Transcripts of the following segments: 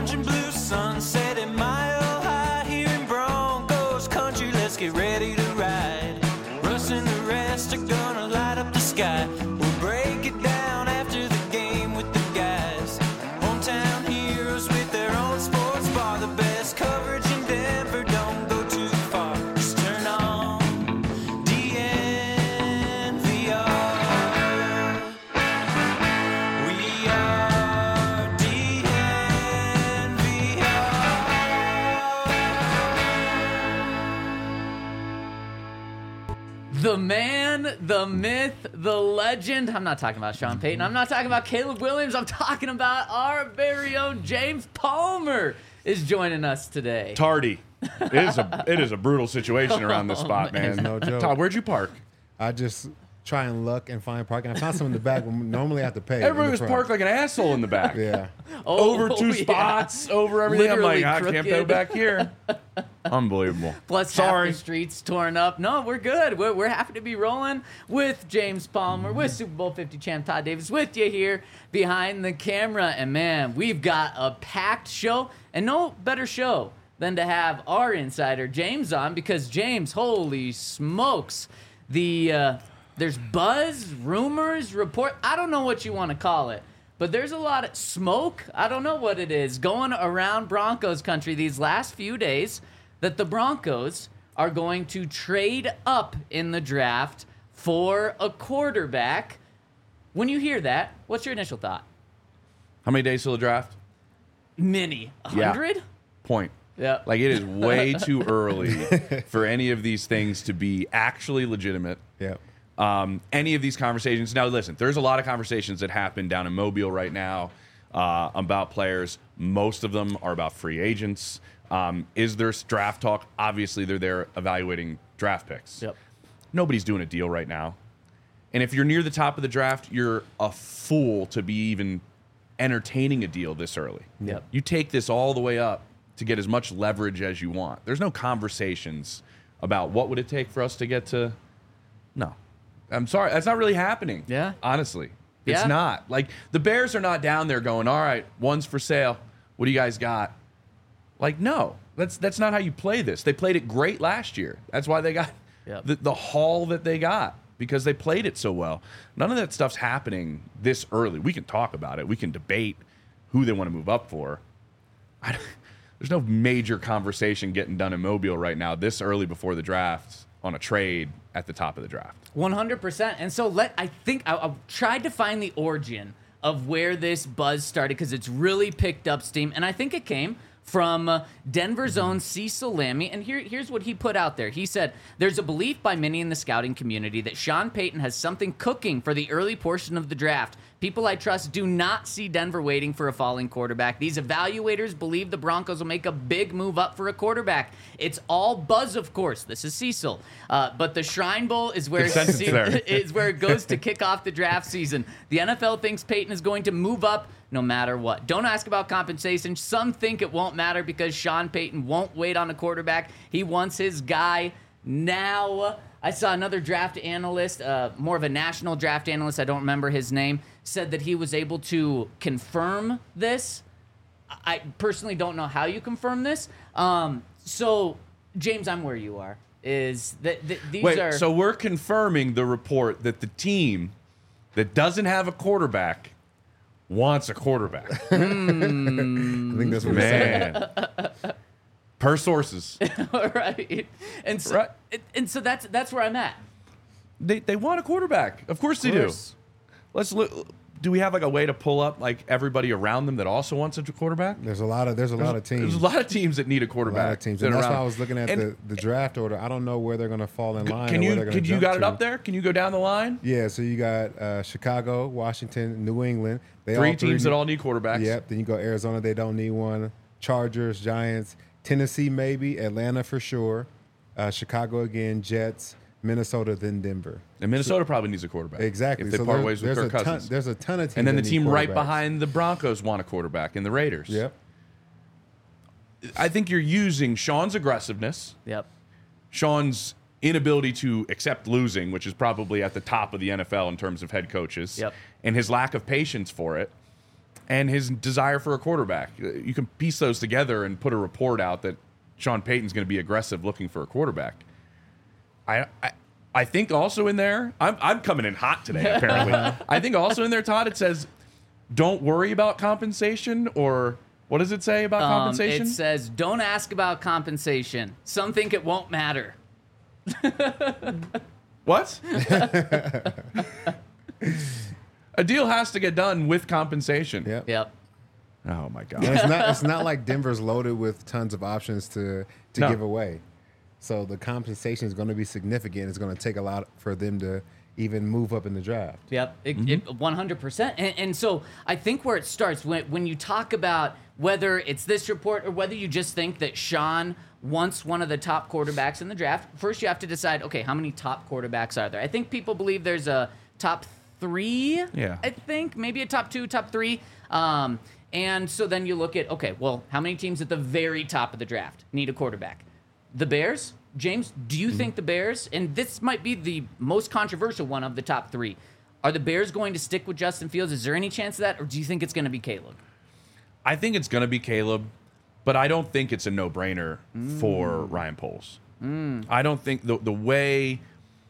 orange and blue sunset at Mile High here in Broncos country. Let's get ready to ride. Russ and the rest are gonna light up the sky. We'll break it down after the game with the guys. Hometown heroes with their own sports bar. The best coverage in Denver, don't go too far. Just turn on DNVR. We are DNVR. The man, the myth, the legend. I'm not talking about Sean Payton. I'm not talking about Caleb Williams. I'm talking about our very own James Palmer is joining us today. Tardy. It is a brutal situation around this spot, man. No joke. Todd, where'd you park? I just try and look and find parking. I found some in the back. Normally I have to pay. Everybody was parked like an asshole in the back. Yeah. Over two yeah. spots, over everything. Literally I'm like, I can't go crooked. back here. Unbelievable. Plus Sorry. half the streets torn up. No, we're good. We're happy to be rolling with James Palmer, with Super Bowl 50 champ Todd Davis, with you here behind the camera. And man, we've got a packed show, and no better show than to have our insider James on, because James, holy smokes, there's buzz, rumors, report. I don't know what you want to call it, but there's a lot of smoke. I don't know what it is going around Broncos country these last few days that the Broncos are going to trade up in the draft for a quarterback. When you hear that, what's your initial thought? How many days till the draft? Many. Yeah. 100? Point. Yeah. Like, it is way too early for any of these things to be actually legitimate. Yeah. Any of these conversations. Now, listen, there's a lot of conversations that happen down in Mobile right now about players. Most of them are about free agents. Is there draft talk? Obviously, they're there evaluating draft picks. Yep. Nobody's doing a deal right now. And if you're near the top of the draft, you're a fool to be even entertaining a deal this early. Yep. You take this all the way up to get as much leverage as you want. There's no conversations about what would it take for us to get to. No. I'm sorry. That's not really happening. Yeah. Honestly. It's Yeah. not. Like, the Bears are not down there going, all right, one's for sale. What do you guys got? Like, no. That's not how you play this. They played it great last year. That's why they got Yep. the haul that they got, because they played it so well. None of that stuff's happening this early. We can talk about it. We can debate who they want to move up for. There's no major conversation getting done in Mobile right now this early before the draft on a trade at the top of the draft. 100%. And so I tried to find the origin of where this buzz started, because it's really picked up steam. And I think it came from Denver's own Cecil Lammey. And here's what he put out there. He said, there's a belief by many in the scouting community that Sean Payton has something cooking for the early portion of the draft. People I trust do not see Denver waiting for a falling quarterback. These evaluators believe the Broncos will make a big move up for a quarterback. It's all buzz, of course. This is Cecil. But the Shrine Bowl is where, is where it goes to kick off the draft season. The NFL thinks Payton is going to move up no matter what. Don't ask about compensation. Some think it won't matter because Sean Payton won't wait on a quarterback. He wants his guy now. I saw another draft analyst, more of a national draft analyst, I don't remember his name, said that he was able to confirm this. I personally don't know how you confirm this. So, James, I'm where you are. Is that these are... So we're confirming the report that the team that doesn't have a quarterback wants a quarterback. I think that's what he said. Man. Per sources. Right. And so, Right. and so that's where I'm at. They want a quarterback. Of course they do. Let's look. Do we have like a way to pull up like everybody around them that also wants a quarterback? There's a lot of teams. There's a lot of teams that need a A quarterback. lot of teams. that And are that's why around. I was looking at And the draft order. I don't know where they're going to fall in line. Can or where you they're gonna you jump got it to. up there? Can you go down the line? Yeah, so you got Chicago, Washington, New England. They Three teams that all need quarterbacks. Yep. Then you go Arizona. They don't need one. Chargers, Giants, Tennessee maybe, Atlanta for sure, Chicago again, Jets, Minnesota, then Denver. And Minnesota probably needs a quarterback. Exactly. If they so part ways with there's Kirk a ton, Cousins. there's a ton of teams. And then the that team need right quarterbacks. behind the Broncos want a quarterback, and the Raiders. Yep. I think you're using Sean's aggressiveness, Yep. Sean's inability to accept losing, which is probably at the top of the NFL in terms of head coaches, Yep. and his lack of patience for it. and his desire for a quarterback. You can piece those together and put a report out that Sean Payton's going to be aggressive looking for a quarterback. I think also in there, I'm coming in hot today, apparently. I think also in there, Todd, it says, don't worry about compensation, or what does it say about compensation? It says, don't ask about compensation. Some think it won't matter. What? A deal has to get done with compensation. Yep. Oh, my God. And it's not like Denver's loaded with tons of options to No. give away. So the compensation is going to be significant. It's going to take a lot for them to even move up in the draft. Yep, 100%. And so I think where it starts, when you talk about whether it's this report or whether you just think that Sean wants one of the top quarterbacks in the draft, first you have to decide, okay, how many top quarterbacks are there? I think people believe there's a top 3, Yeah. I think, maybe a top 2, top 3. And so then you look at, okay, well, how many teams at the very top of the draft need a quarterback? The Bears? James, do you think the Bears, and this might be the most controversial one of the top 3, are the Bears going to stick with Justin Fields? Is there any chance of that, or do you think it's going to be Caleb? I think it's going to be Caleb, but I don't think it's a no-brainer for Ryan Poles. I don't think the way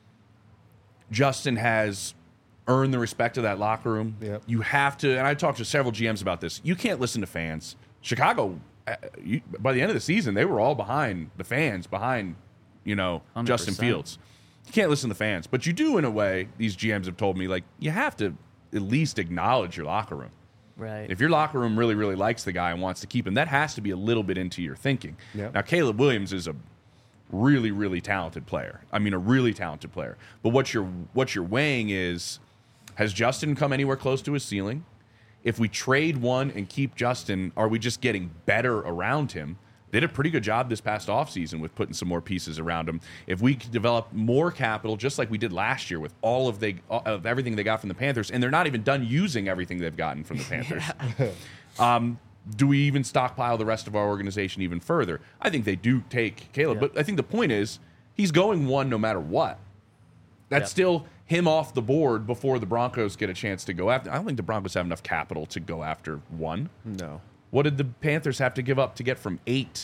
Justin has earned the respect of that locker room, Yep. you have to, and I talked to several GMs about this, you can't listen to fans. Chicago, by the end of the season, they were all behind the fans, behind, 100%. Justin Fields. You can't listen to fans, but you do in a way, these GMs have told me, like, you have to at least acknowledge your locker room. Right. If your locker room really, really likes the guy and wants to keep him, that has to be a little bit into your thinking. Yep. Now, Caleb Williams is a really, really talented player. I mean, a really talented player. But what you're weighing is, has Justin come anywhere close to his ceiling? If we trade one and keep Justin, are we just getting better around him? They did a pretty good job this past offseason with putting some more pieces around him. If we could develop more capital, just like we did last year with all of everything they got from the Panthers, and they're not even done using everything they've gotten from the Panthers. Do we even stockpile the rest of our organization even further? I think they do take Caleb, but I think the point is he's going one no matter what. That's still him off the board before the Broncos get a chance to go after. I don't think the Broncos have enough capital to go after one. No. What did the Panthers have to give up to get from 8?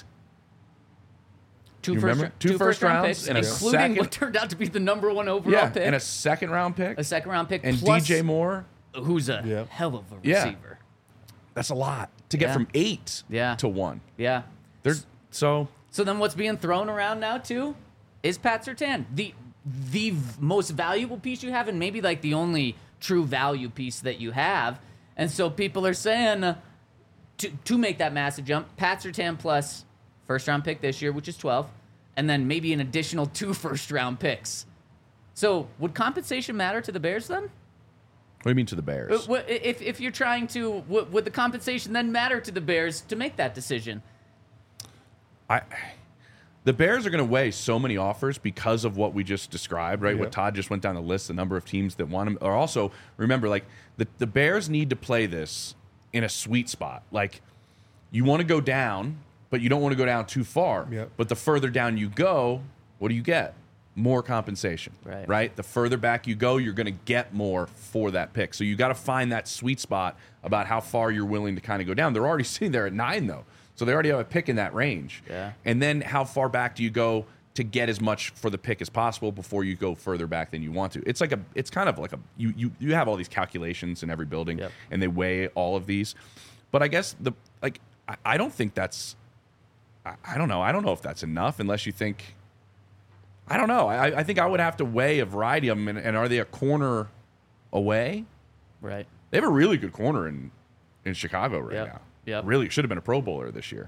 Two You remember? Two first first round rounds picks, and a including second- what turned out to be the number 1 overall pick. and a second-round pick. A second-round pick. And plus, DJ Moore. who's a Yep. hell of a Yeah. receiver. That's a lot to get Yeah. from 8 Yeah. to 1. Yeah. So So then what's being thrown around now, too, is Pat Surtain. The most valuable piece you have, and maybe like the only true value piece that you have. And so people are saying, to make that massive jump, Pat Surtain plus first-round pick this year, which is 12, and then maybe an additional 2 first-round picks. So would compensation matter to the Bears then? what do you mean to the Bears? If you're trying to, would the compensation then matter to the Bears to make that decision? The Bears are going to weigh so many offers because of what we just described, right? Yeah. What Todd just went down the list, the number of teams that want him. Or also, remember, like, the Bears need to play this in a sweet spot. Like, you want to go down, but you don't want to go down too far. Yep. But the further down you go, what do you get? More compensation, Right. The further back you go, you're going to get more for that pick. So you got to find that sweet spot about how far you're willing to kind of go down. They're already sitting there at 9, though. So they already have a pick in that range. Yeah. And then how far back do you go to get as much for the pick as possible before you go further back than you want to? It's kind of like you have all these calculations in every building, Yep. and they weigh all of these. But I guess I don't think that's I don't know. I don't know if that's enough unless you think I don't know. I think I would have to weigh a variety of them, and are they a corner away? Right. They have a really good corner in Chicago right Yep. now. Yep. Really should have been a Pro Bowler this year.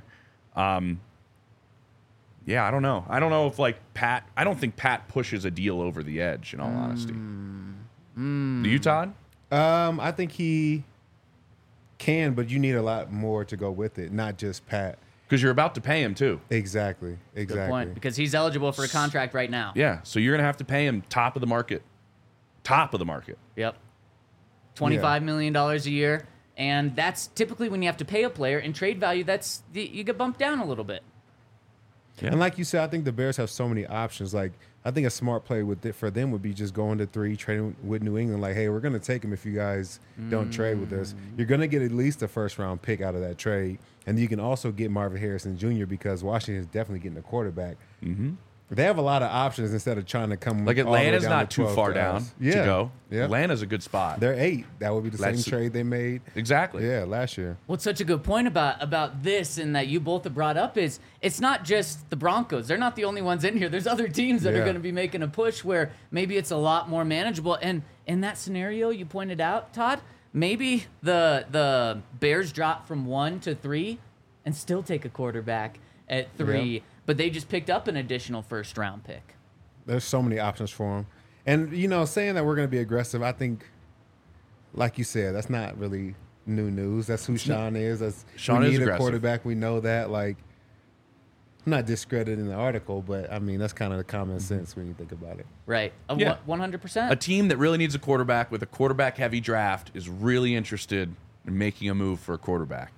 Yeah, I don't know. I don't know if Pat. I don't think Pat pushes a deal over the edge. In all honesty, do you, Todd? I think he can, but you need a lot more to go with it, not just Pat. Because you're about to pay him too. Exactly. Good point. Because he's eligible for a contract right now. Yeah, so you're gonna have to pay him top of the market. Top of the market. Yep. $25 million a year. And that's typically when you have to pay a player in trade value, you get bumped down a little bit. Yeah. And like you said, I think the Bears have so many options. Like, I think a smart play for them would be just going to 3, trading with New England. Like, hey, we're going to take him if you guys don't trade with us. You're going to get at least a first-round pick out of that trade. And you can also get Marvin Harrison Jr. because Washington is definitely getting a quarterback. Mm-hmm. They have a lot of options instead of trying to come Like all the way Atlanta's down not to too 12 far to down us. to go. Yeah. Atlanta's a good spot. They're 8. That would be the That's- same trade they made. Exactly. Yeah, last year. What's such a good point about this and that you both have brought up is it's not just the Broncos. They're not the only ones in here. There's other teams that are Yeah. going to be making a push where maybe it's a lot more manageable. And in that scenario you pointed out, Todd, maybe the Bears drop from 1 to 3 and still take a quarterback at 3, Yeah. but they just picked up an additional first-round pick. There's so many options for him. And, saying that we're going to be aggressive, I think, like you said, that's not really new news. That's who Sean is. Sean we is need aggressive. a quarterback. We know that. Like, I'm not discrediting the article, but, I mean, that's kind of the common sense when you think about it. Right. Yeah. 100%. A team that really needs a quarterback with a quarterback-heavy draft is really interested in making a move for a quarterback.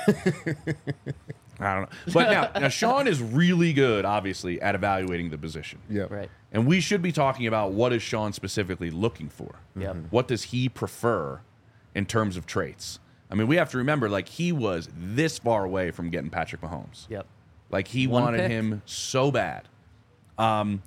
I don't know. But now Sean is really good, obviously, at evaluating the position. Yeah. Right. And we should be talking about what is Sean specifically looking for. Yep. What does he prefer in terms of traits? I mean, we have to remember, like, he was this far away from getting Patrick Mahomes. Yep. Like, he One wanted pick. him so bad. And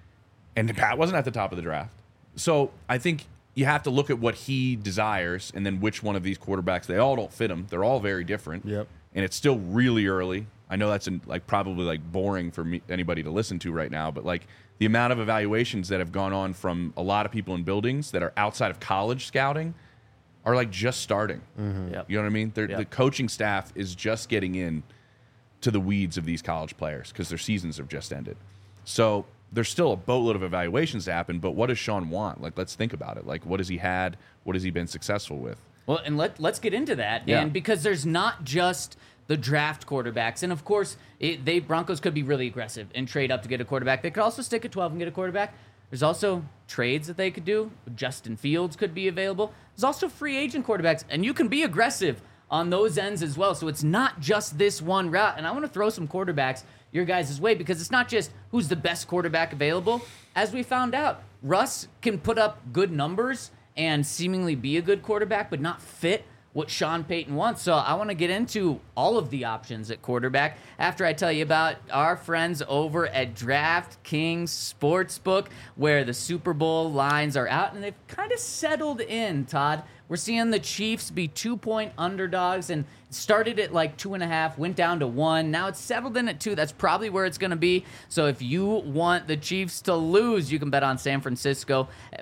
Pat wasn't at the top of the draft. So I think you have to look at what he desires and then which one of these quarterbacks. They all don't fit him. They're all very different. Yep. And it's still really early. I know that's probably boring for anybody to listen to right now, but like the amount of evaluations that have gone on from a lot of people in buildings that are outside of college scouting are like just starting. Yep. You know what I mean? Yep. The coaching staff is just getting in to the weeds of these college players because their seasons have just ended. So there's still a boatload of evaluations to happen, but what does Sean want? Like, let's think about it. Like, what has he had? What has he been successful with? Well, and let's get into that. Yeah. And because there's not just the draft quarterbacks, and of course, Broncos could be really aggressive and trade up to get a quarterback. They could also stick at 12 and get a quarterback. There's also trades that they could do. Justin Fields could be available. There's also free agent quarterbacks, and you can be aggressive on those ends as well. So it's not just this one route. And I want to throw some quarterbacks your guys' way because it's not just who's the best quarterback available. As we found out, Russ can put up good numbers and seemingly be a good quarterback, but not fit what Sean Payton wants. So I want to get into all of the options at quarterback after I tell you about our friends over at DraftKings Sportsbook, where the Super Bowl lines are out and they've kind of settled in, Todd. We're seeing the Chiefs be 2-point underdogs and started at like 2.5, went down to 1. Now it's settled in at 2. That's probably where it's going to be. So if you want the Chiefs to lose, you can bet on San Francisco at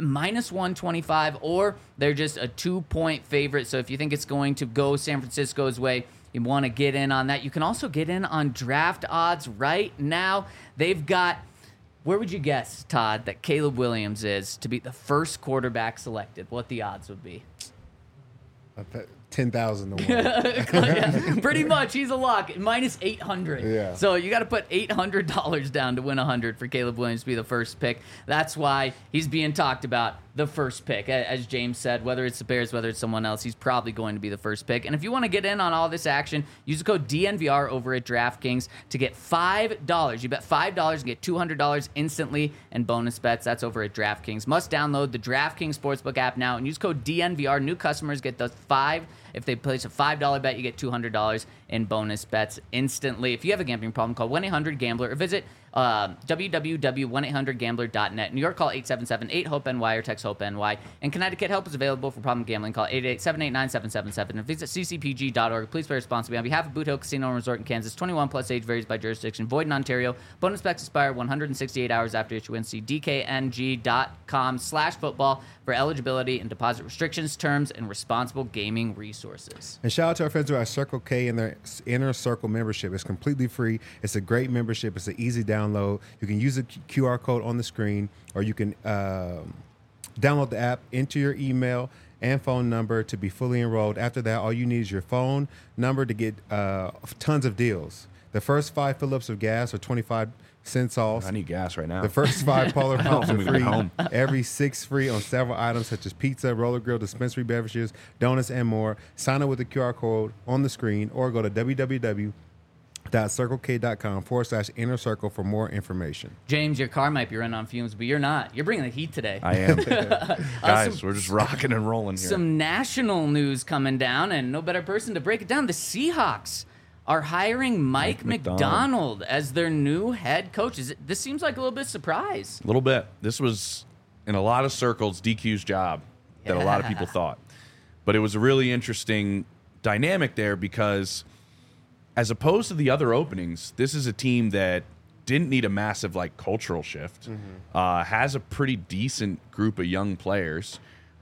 -125, or they're just a 2-point favorite. So if you think it's going to go San Francisco's way, you want to get in on that. You can also get in on draft odds right now. They've got, where would you guess, Todd, that Caleb Williams is to be the first quarterback selected? What the odds would be? 10,000 to 1. Yeah, pretty much. He's a lock. -800. Yeah. So you got to put $800 down to win 100 for Caleb Williams to be the first pick. That's why he's being talked about the first pick. As James said, whether it's the Bears, whether it's someone else, he's probably going to be the first pick. And if you want to get in on all this action, use the code DNVR over at DraftKings to get $5. You bet $5 and get $200 instantly in bonus bets. That's over at DraftKings. Must download the DraftKings Sportsbook app now and use code DNVR. New customers get those $5. If they place a $5 bet, you get $200 in bonus bets instantly. If you have a gambling problem, call 1-800-GAMBLER or visit www.1800gambler.net. New York, call 877-8-HOPE-NY or text HOPE-NY. And Connecticut, help is available for problem gambling. Call 888-789-777. And visit ccpg.org. Please play responsibly. On behalf of Boot Hill Casino and Resort in Kansas, 21 plus, age varies by jurisdiction. Void in Ontario. Bonus bets expire 168 hours after issuance. See dkng.com/football for eligibility and deposit restrictions, terms, and responsible gaming resources. And shout out to our friends who are Circle K and their Inner Circle membership. It's completely free. It's a great membership. It's an easy download. You can use the QR code on the screen, or you can download the app, enter your email and phone number to be fully enrolled. After that, all you need is your phone number to get tons of deals. The first 5 fill-ups of gas are 25 cents off. I need gas right now. The first 5 Polar pumps are when we get free. home. Every 6 free on several items such as pizza, roller grill, dispensary beverages, donuts, and more. Sign up with the QR code on the screen or go to shop.circlek.com/inner circle for more information. James, your car might be running on fumes, but you're not. You're bringing the heat today. I am. Guys, we're just rocking and rolling here. Some national news coming down, and no better person to break it down. The Seahawks are hiring Mike Macdonald as their new head coach. This seems like a little bit of surprise. A little bit. This was, in a lot of circles, DQ's job that a lot of people thought. But it was a really interesting dynamic there because as opposed to the other openings, this is a team that didn't need a massive cultural shift, has a pretty decent group of young players,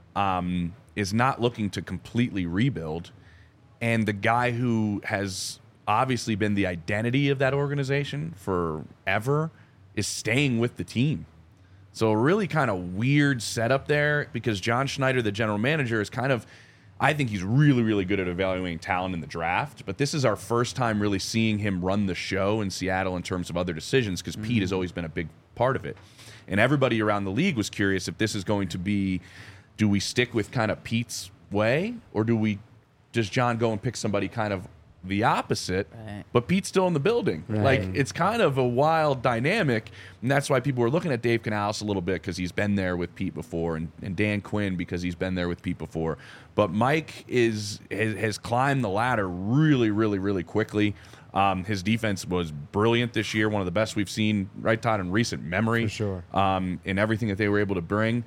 is not looking to completely rebuild. And the guy who has obviously been the identity of that organization forever is staying with the team. So a really kind of weird setup there because John Schneider, the general manager, is I think he's really, really good at evaluating talent in the draft, but this is our first time really seeing him run the show in Seattle in terms of other decisions because Pete has always been a big part of it. And everybody around the league was curious if this is going to be, do we stick with kind of Pete's way or does John go and pick somebody kind of the opposite, right, but Pete's still in the building? Right. It's kind of a wild dynamic, and that's why people were looking at Dave Canales a little bit because he's been there with Pete before, and Dan Quinn because he's been there with Pete before. But Mike has climbed the ladder really, really, really quickly. His defense was brilliant this year, one of the best we've seen, right, Todd, in recent memory. For sure. In everything that they were able to bring.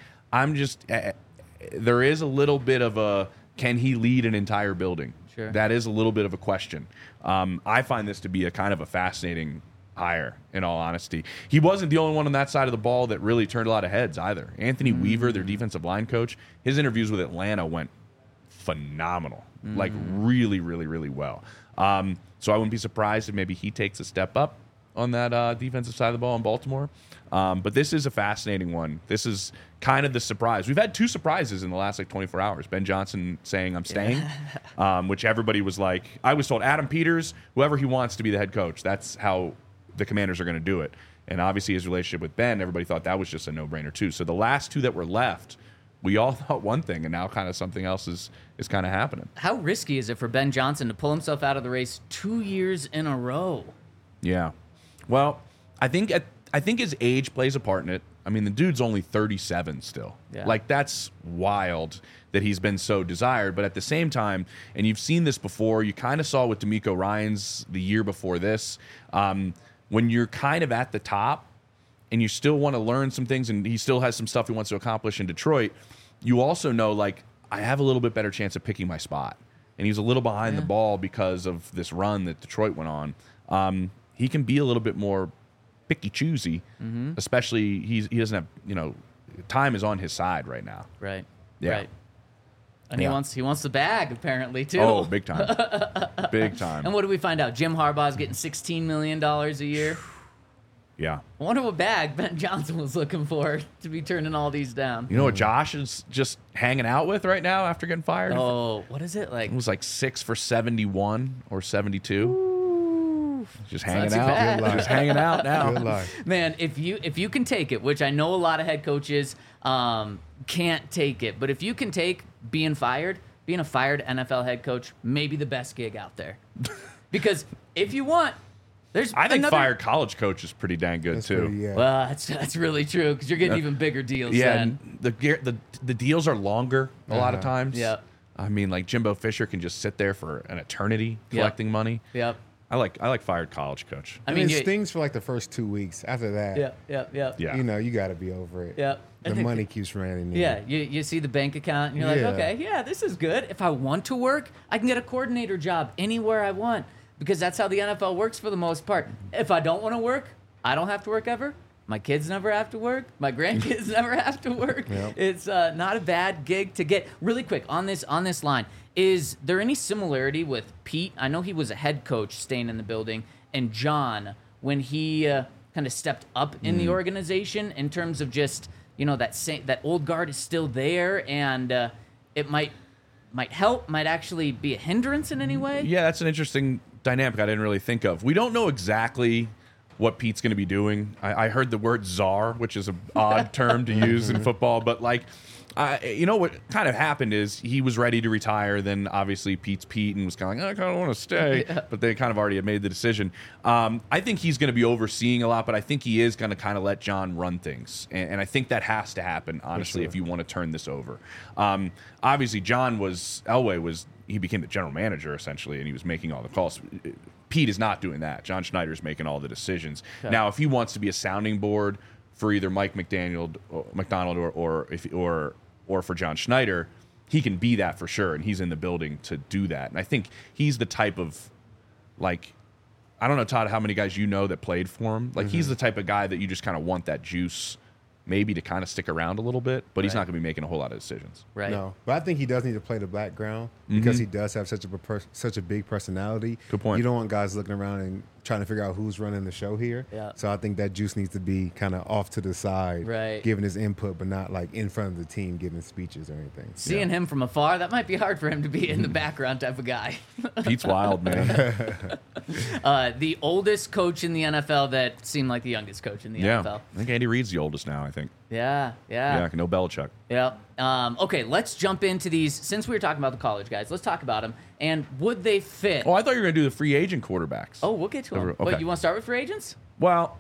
There is a little bit of a, can he lead an entire building? Sure. That is a little bit of a question. I find this to be a kind of a fascinating hire, in all honesty. He wasn't the only one on that side of the ball that really turned a lot of heads either. Anthony Weaver, their defensive line coach, his interviews with Atlanta went phenomenal. Really, really, really well. So I wouldn't be surprised if maybe he takes a step up on that defensive side of the ball in Baltimore. But this is a fascinating one. This is kind of the surprise. We've had two surprises in the last 24 hours. Ben Johnson saying, I'm staying, which everybody was like, I was told Adam Peters, whoever he wants to be the head coach, that's how the Commanders are going to do it. And obviously his relationship with Ben, everybody thought that was just a no-brainer too. So the last two that were left, we all thought one thing, and now kind of something else is kind of happening. How risky is it for Ben Johnson to pull himself out of the race 2 years in a row? Yeah. Well, I think his age plays a part in it. I mean, the dude's only 37 still. Yeah. That's wild that he's been so desired. But at the same time, and you've seen this before, you kind of saw with D'Amico Ryans the year before this, when you're kind of at the top and you still want to learn some things and he still has some stuff he wants to accomplish in Detroit, you also know, I have a little bit better chance of picking my spot. And he's a little behind the ball because of this run that Detroit went on. He can be a little bit more picky choosy, especially he doesn't have, time is on his side right now. Right. Yeah. Right. And he wants the bag apparently too. Oh, big time. Big time. And what do we find out? Jim Harbaugh's getting $16 million a year. Yeah. I wonder what bag Ben Johnson was looking for to be turning all these down. You know what Josh is just hanging out with right now after getting fired? Oh, what is it like? It was 6 for 71 or 72. Just hanging not too bad. out. Just hanging out now. Good life. Man, if you can take it, which I know a lot of head coaches can't take it, but if you can take being a fired NFL head coach, maybe the best gig out there. Because if you want, I think fired college coach is pretty dang good That's too. pretty, yeah. Well, that's really true because you're getting even bigger deals. Yeah, then. and the deals are longer a lot of times. Yep. I mean, Jimbo Fisher can just sit there for an eternity collecting money. Yep. I like fired college coach. I mean, it stings for the first 2 weeks. After that, Yeah. you got to be over it. Yeah. The money keeps running in. Yeah, you see the bank account and you're like, Yeah. okay, yeah, this is good. If I want to work, I can get a coordinator job anywhere I want because that's how the NFL works for the most part. If I don't want to work, I don't have to work ever. My kids never have to work. My grandkids never have to work. Yep. It's not a bad gig to get. Really quick, on this line, is there any similarity with Pete? I know he was a head coach staying in the building, and John, when he kind of stepped up in the organization in terms of just, that old guard is still there, and it might help, might actually be a hindrance in any way? Yeah, that's an interesting dynamic I didn't really think of. We don't know exactly what Pete's going to be doing. I heard the word czar, which is an odd term to use in football, but You know what kind of happened is he was ready to retire. Then obviously Pete's Pete and was kind of like, I kind of want to stay, but they kind of already had made the decision. I think he's going to be overseeing a lot, but I think he is going to kind of let John run things, and I think that has to happen honestly if you want to turn this over. Obviously, he became the general manager essentially, and he was making all the calls. Pete is not doing that. John Schneider's making all the decisions. Okay. Now, if he wants to be a sounding board for either Mike McDonald or for John Schneider, he can be that for sure, and he's in the building to do that. And I think he's the type of, like, I don't know, Todd, how many guys you know that played for him. Like, he's the type of guy that you just kind of want that juice maybe to kind of stick around a little bit, but he's not going to be making a whole lot of decisions. Right. No, but I think he does need to play the background because he does have such a big personality. Good point. You don't want guys looking around and trying to figure out who's running the show here. Yeah. So I think that juice needs to be kind of off to the side, right, giving his input, but not like in front of the team giving speeches or anything. Seeing him from afar, that might be hard for him to be in the background type of guy. Pete's wild, man. The oldest coach in the NFL that seemed like the youngest coach in the NFL. I think Andy Reid's the oldest now, I think. Yeah. No Belichick. Yeah. Okay, let's jump into these. Since we were talking about the college guys, let's talk about them. And would they fit? Oh, I thought you were going to do the free agent quarterbacks. Oh, we'll get to them. Okay. Wait, you want to start with free agents? Well,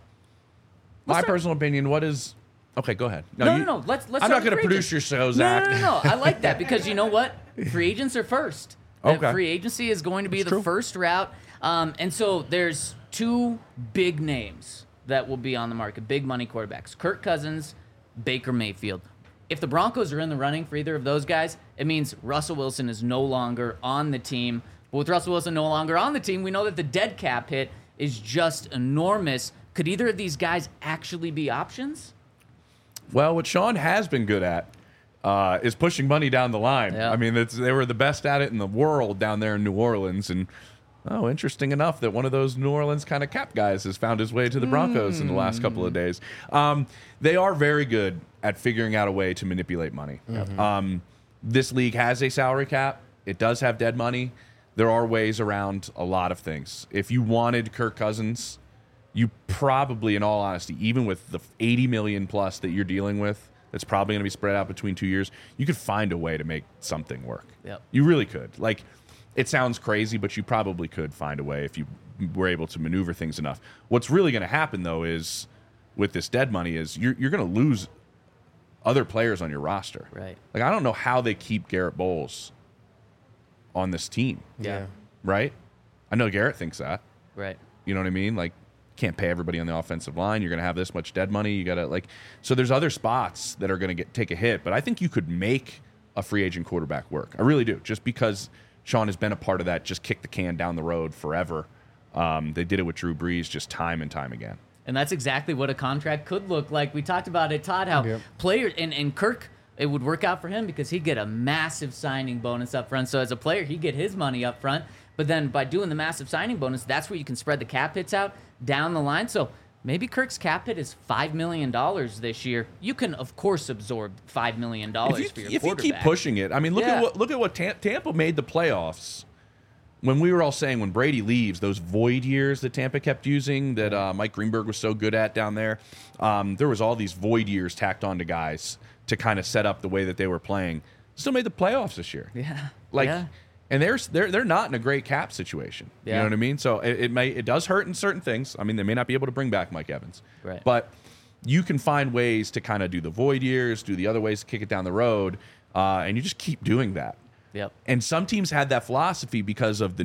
my personal opinion, what is... Okay, go ahead. No. Let's I'm not going to produce your show, Zach. No. I like that because you know what? Free agents are first. Okay. Free agency is going to be the first route. And so there's two big names that will be on the market, big money quarterbacks, Kirk Cousins, Baker Mayfield. If the Broncos are in the running for either of those guys, it means Russell Wilson is no longer on the team. But with Russell Wilson no longer on the team, we know that the dead cap hit is just enormous. Could either of these guys actually be options? Well, what Sean has been good at is pushing money down the line. Yeah. I mean, they were the best at it in the world down there in New Orleans. And, interesting enough that one of those New Orleans kind of cap guys has found his way to the Broncos in the last couple of days. They are very good at figuring out a way to manipulate money. This league has a salary cap. It does have dead money. There are ways around a lot of things. If you wanted Kirk Cousins, you probably, in all honesty, even with the $80 million plus that you're dealing with, that's probably going to be spread out between 2 years, you could find a way to make something work. Yep. You really could. Like, it sounds crazy, but you probably could find a way if you were able to maneuver things enough. What's really going to happen, though, is with this dead money is you're going to lose other players on your roster. Right. Like, I don't know how they keep Garrett Bowles on this team. Yeah. Right? I know Garrett thinks that. Right. You know what I mean? Like, can't pay everybody on the offensive line. You're going to have this much dead money. You got to, like, so there's other spots that are going to take a hit. But I think you could make a free agent quarterback work. I really do. Just because Sean has been a part of that, just kick the can down the road forever. They did it with Drew Brees just time and time again. And that's exactly what a contract could look like. We talked about it, Todd, how players, and Kirk, it would work out for him because he'd get a massive signing bonus up front. So as a player, he'd get his money up front. But then by doing the massive signing bonus, that's where you can spread the cap hits out down the line. So maybe Kirk's cap hit is $5 million this year. You can, of course, absorb $5 million for your quarterback. If you keep pushing it, I mean, look at what Tampa made the playoffs. When we were all saying when Brady leaves, those void years that Tampa kept using, that Mike Greenberg was so good at down there, there was all these void years tacked on to guys to kind of set up the way that they were playing. Still made the playoffs this year. Yeah. And they're not in a great cap situation. You know what I mean? So it does hurt in certain things. I mean, they may not be able to bring back Mike Evans. Right. But you can find ways to kind of do the void years, do the other ways to kick it down the road, and you just keep doing that. Yep. And some teams had that philosophy because of the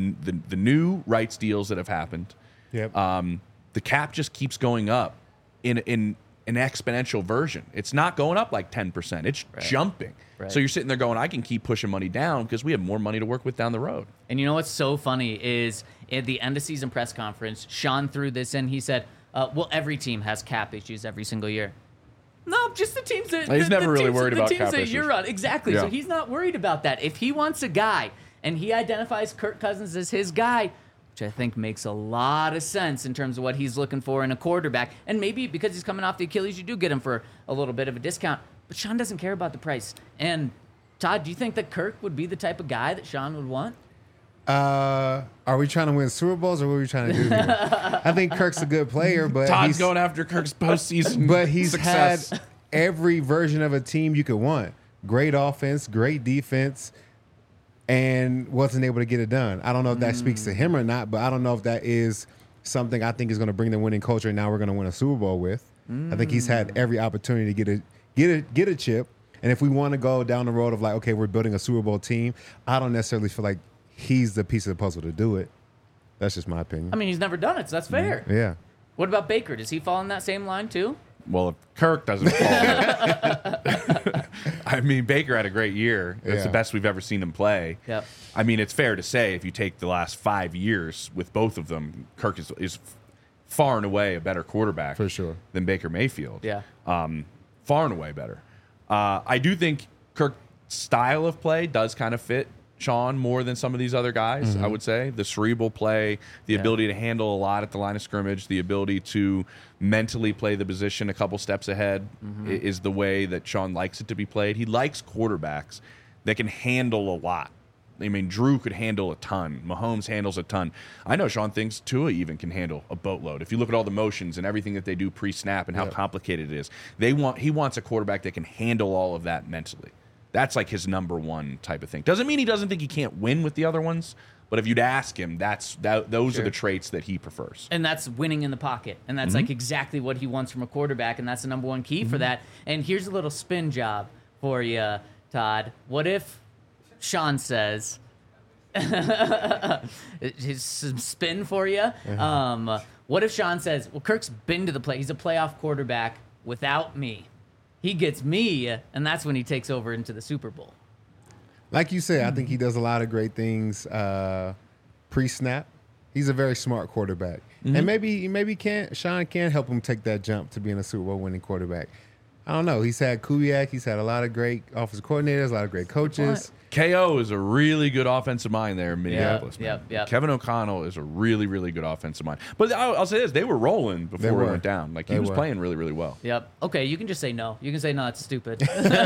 new rights deals that have happened. Yep. The cap just keeps going up in an exponential version. It's not going up like 10%. It's jumping. Right. So you're sitting there going, I can keep pushing money down because we have more money to work with down the road. And you know what's so funny is at the end of season press conference, Sean threw this in. He said, well, every team has cap issues every single year. No, just the teams that he's never really worried about cap that issues. you're on. Exactly. Yeah. So he's not worried about that. If he wants a guy and he identifies Kirk Cousins as his guy, which I think makes a lot of sense in terms of what he's looking for in a quarterback, and maybe because he's coming off the Achilles, you do get him for a little bit of a discount. But Sean doesn't care about the price. And Todd, do you think that Kirk would be the type of guy that Sean would want? Are we trying to win Super Bowls or what are we trying to do here? I think Kirk's a good player, but Todd's going after Kirk's postseason but he's success. had every version of a team you could want. great offense, great defense, and wasn't able to get it done. I don't know if that speaks to him or not, but I don't know if that is something I think is going to bring the winning culture and now we're going to win a Super Bowl with. I think he's had every opportunity to get a chip. And if we want to go down the road of like, okay, we're building a Super Bowl team, I don't necessarily feel like he's the piece of the puzzle to do it. That's just my opinion. I mean, he's never done it, so that's fair. Yeah. What about Baker? Does he fall in that same line too? Well, if Kirk doesn't fall, I mean, Baker had a great year. It's the Yeah. best we've ever seen him play. Yep. I mean, it's fair to say if you take the last 5 years with both of them, Kirk is far and away a better quarterback For sure. than Baker Mayfield. Yeah. Far and away better. I do think Kirk's style of play does kind of fit Sean more than some of these other guys, I would say. The cerebral play, the ability to handle a lot at the line of scrimmage, the ability to mentally play the position a couple steps ahead is the way that Sean likes it to be played. He likes quarterbacks that can handle a lot. I mean, Drew could handle a ton. Mahomes handles a ton. I know Sean thinks Tua even can handle a boatload. If you look at all the motions and everything that they do pre-snap and how complicated it is, he wants a quarterback that can handle all of that mentally. That's like his number one type of thing. Doesn't mean he doesn't think he can't win with the other ones, but if you'd ask him, those are the traits that he prefers. And that's winning in the pocket. And that's like exactly what he wants from a quarterback. And that's the number one key for that. And here's a little spin job for you, Todd. What if Sean says, his spin for you? What if Sean says, well, Kirk's been to the play. He's a playoff quarterback without me. He gets me, and that's when he takes over into the Super Bowl. Like you said, I think he does a lot of great things pre-snap. He's a very smart quarterback. And maybe Sean can help him take that jump to being a Super Bowl winning quarterback. I don't know. He's had Kubiak. He's had a lot of great offensive coordinators, a lot of great coaches. KO is a really good offensive mind there in Minneapolis. man. Yep. Kevin O'Connell is a really, really good offensive mind. But I'll say this, they were rolling before we went down. Like, he was playing really, really well. Yep. Okay, you can just say no. You can say no, it's stupid.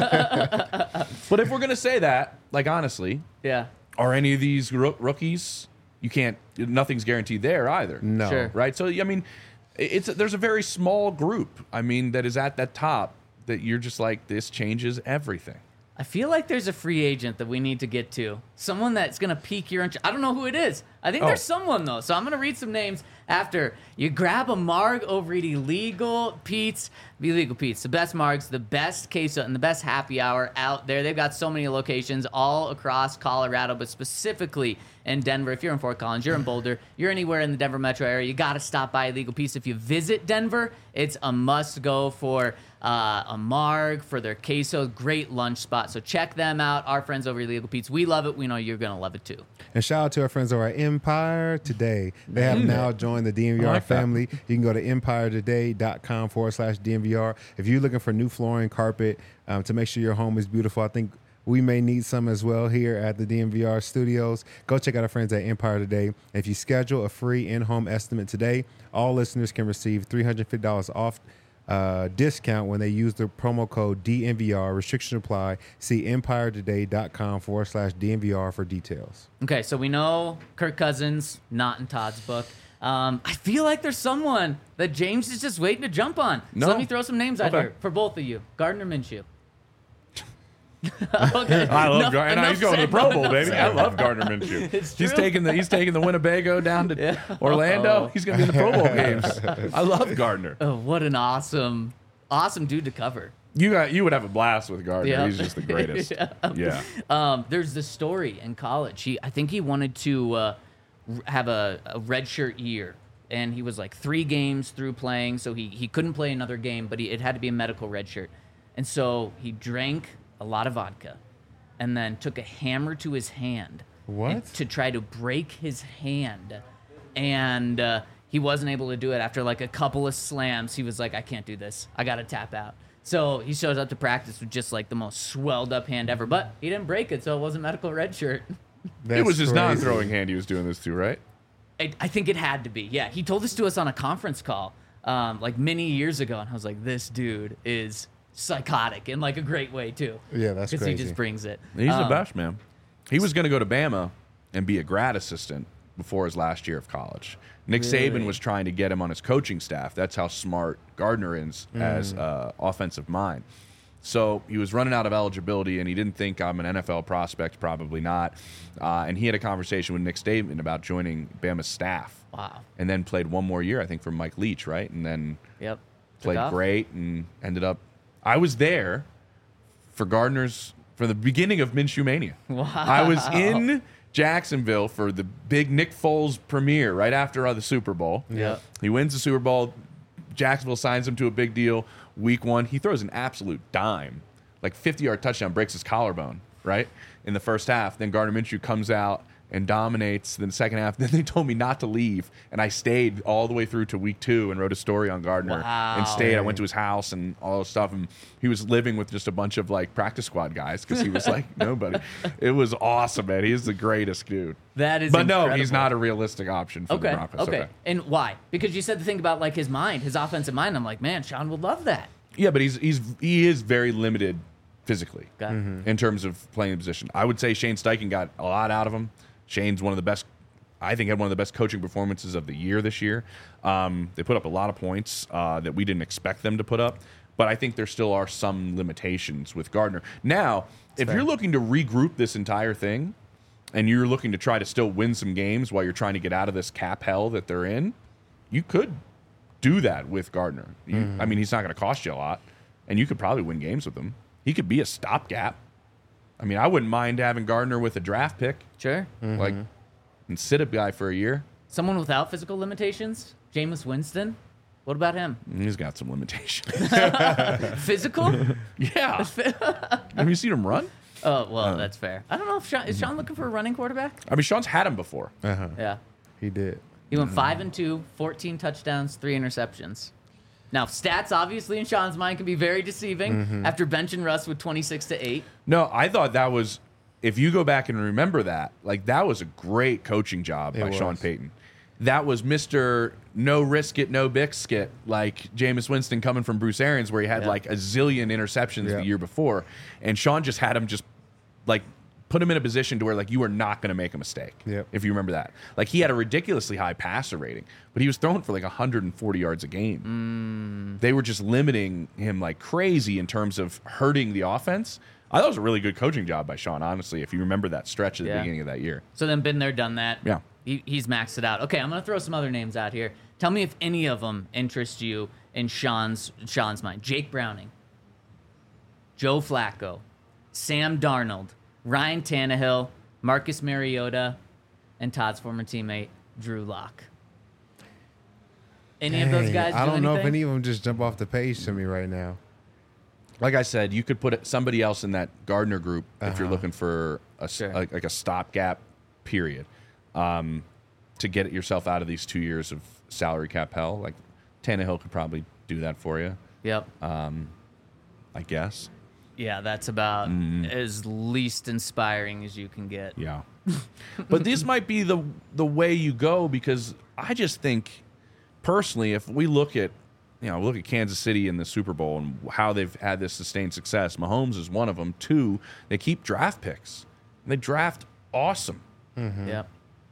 But if we're going to say that, like, honestly, Yeah. are any of these rookies, nothing's guaranteed there either. No. Sure. Right? So, I mean, there's a very small group, I mean, that is at that top that you're just like, this changes everything. I feel like there's a free agent that we need to get to. Someone that's going to pique your interest. I don't know who it is. I think there's someone, though. So I'm going to read some names after. You grab a marg over at Illegal Pete's. Illegal Pete's, the best margs, the best queso, and the best happy hour out there. They've got so many locations all across Colorado, but specifically in Denver. If you're in Fort Collins, you're in Boulder, you're anywhere in the Denver metro area, you got to stop by Illegal Pete's. If you visit Denver, it's a must-go for a marg, for their queso. Great lunch spot. So check them out. Our friends over at Illegal Pete's. We love it. We know you're going to love it, too. And shout out to our friends over at Empire Today. They have now joined the DNVR like that. family. You can go to empiretoday.com/DNVR. If you're looking for new flooring, carpet, to make sure your home is beautiful, I think we may need some as well here at the DNVR studios. Go check out our friends at Empire Today. If you schedule a free in-home estimate today, all listeners can receive $350 off discount when they use the promo code DNVR. Restrictions apply. See empiretoday.com/DNVR for details. Okay, so we know Kirk Cousins, not in Todd's book. I feel like there's someone that James is just waiting to jump on. No. So let me throw some names out Okay. here for both of you. Gardner Minshew. Okay. I love Enough- Gardner. enough He's going to the said, Pro bro, Bowl, enough baby. said. I love Gardner Minshew. It's He's true. taking the winnebago down to Orlando. Uh-oh. He's going to be in the Pro Bowl games. I love Gardner. Oh, what an awesome dude to cover. You would have a blast with Gardner. Yeah. He's just the greatest. Yeah. There's this story in college. I think he wanted to have a redshirt year, and he was like 3 games through playing, so he couldn't play another game, but it had to be a medical redshirt. And so he drank a lot of vodka and then took a hammer to his hand to try to break his hand. And he wasn't able to do it. After like a couple of slams, he was like, I can't do this. I got to tap out. So he shows up to practice with just like the most swelled up hand ever, but he didn't break it, so it wasn't medical red shirt. It was his crazy. non-throwing hand he was doing this to, right? I think it had to be. Yeah, he told this to us on a conference call like many years ago, and I was like, this dude is psychotic in like a great way too. Yeah, that's because he crazy. just brings it. He's the best, man. He was going to go to Bama and be a grad assistant before his last year of college. Nick Saban was trying to get him on his coaching staff. That's how smart Gardner is as offensive mind. So he was running out of eligibility, and he didn't think I'm an NFL prospect, probably not. And he had a conversation with Nick Saban about joining Bama's staff. Wow. And then played one more year, I think, for Mike Leach, right? And then Yep. played Took off. great and ended up. I was there for Gardner's for the beginning of Minshew Mania. Wow. I was in Jacksonville for the big Nick Foles premiere right after the Super Bowl. Yep. He wins the Super Bowl. Jacksonville signs him to a big deal. Week 1, he throws an absolute dime, like 50-yard touchdown, breaks his collarbone, right, in the first half. Then Gardner Minshew comes out and dominates. Then the second half, then they told me not to leave, and I stayed all the way through to week 2 and wrote a story on Gardner and stayed. I went to his house and all this stuff, and he was living with just a bunch of like practice squad guys because he was like nobody. It was awesome, man. He's the greatest dude. That is But no, incredible. he not a realistic option for the Okay. Broncos. Okay. And why? Because you said the thing about like his mind, his offensive mind. I'm like, man, Sean would love that. Yeah, but he is very limited physically Got it. in terms of playing the position. I would say Shane Steichen got a lot out of him. Shane's one of the best. I think had one of the best coaching performances of the year this year. They put up a lot of points that we didn't expect them to put up, but I think there still are some limitations with Gardner. Now, if you're looking to regroup this entire thing, and you're looking to try to still win some games while you're trying to get out of this cap hell that they're in, you could do that with Gardner. I mean, he's not going to cost you a lot, and you could probably win games with him. He could be a stopgap. I mean, I wouldn't mind having Gardner with a draft pick, Sure. like, and sit a guy for a year. Someone without physical limitations, Jameis Winston. What about him? He's got some limitations. Physical? Yeah. Have you seen him run? Oh, well, that's fair. I don't know if Sean is Sean looking for a running quarterback? I mean, Sean's had him before. Yeah. He did. He went 5-2, 14 touchdowns, 3 interceptions. Now, stats obviously in Sean's mind can be very deceiving after benching Russ with 26-8. No, I thought that was, if you go back and remember that, like that was a great coaching job by It Sean was. Payton. That was Mr. No risk it, no biscuit, like Jameis Winston coming from Bruce Arians, where he had Yeah. like a zillion interceptions Yeah. the year before. And Sean just had him just like put him in a position to where like you are not going to make a mistake. Yep. If you remember that. Like he had a ridiculously high passer rating, but he was throwing for like 140 yards a game. They were just limiting him like crazy in terms of hurting the offense. I thought it was a really good coaching job by Sean, honestly, if you remember that stretch at the Yeah. beginning of that year. So then been there, done that. Yeah. He's maxed it out. Okay, I'm going to throw some other names out here. Tell me if any of them interest you in Sean's mind. Jake Browning, Joe Flacco, Sam Darnold, Ryan Tannehill, Marcus Mariota, and Todd's former teammate, Drew Lock. Any of those Dang, guys I do don't know if anything? any of them just jump off the page to me right now. Like I said, you could put somebody else in that Gardner group if you're looking for Sure. like a stopgap period to get yourself out of these 2 years of salary cap hell. Like Tannehill could probably do that for you, Yep. I guess. Yeah, that's about as least inspiring as you can get. Yeah. But this might be the way you go, because I just think personally, if we look at Kansas City in the Super Bowl and how they've had this sustained success, Mahomes is one of them. 2, they keep draft picks. They draft awesome. Yep.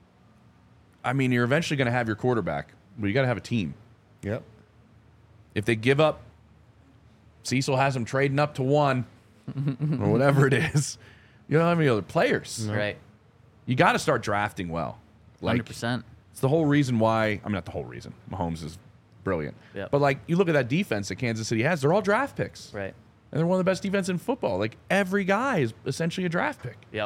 I mean, you're eventually going to have your quarterback, but you got to have a team. Yep. If they give up, Cecil has them trading up to 1 or whatever it is. You don't have any other players. Right. You got to start drafting well. Like 100%. it's the whole reason why. I mean, not the whole reason. Mahomes is brilliant. Yep. But like, you look at that defense that Kansas City has; they're all draft picks, Right. and they're one of the best defense in football. Like every guy is essentially a draft pick. Yep.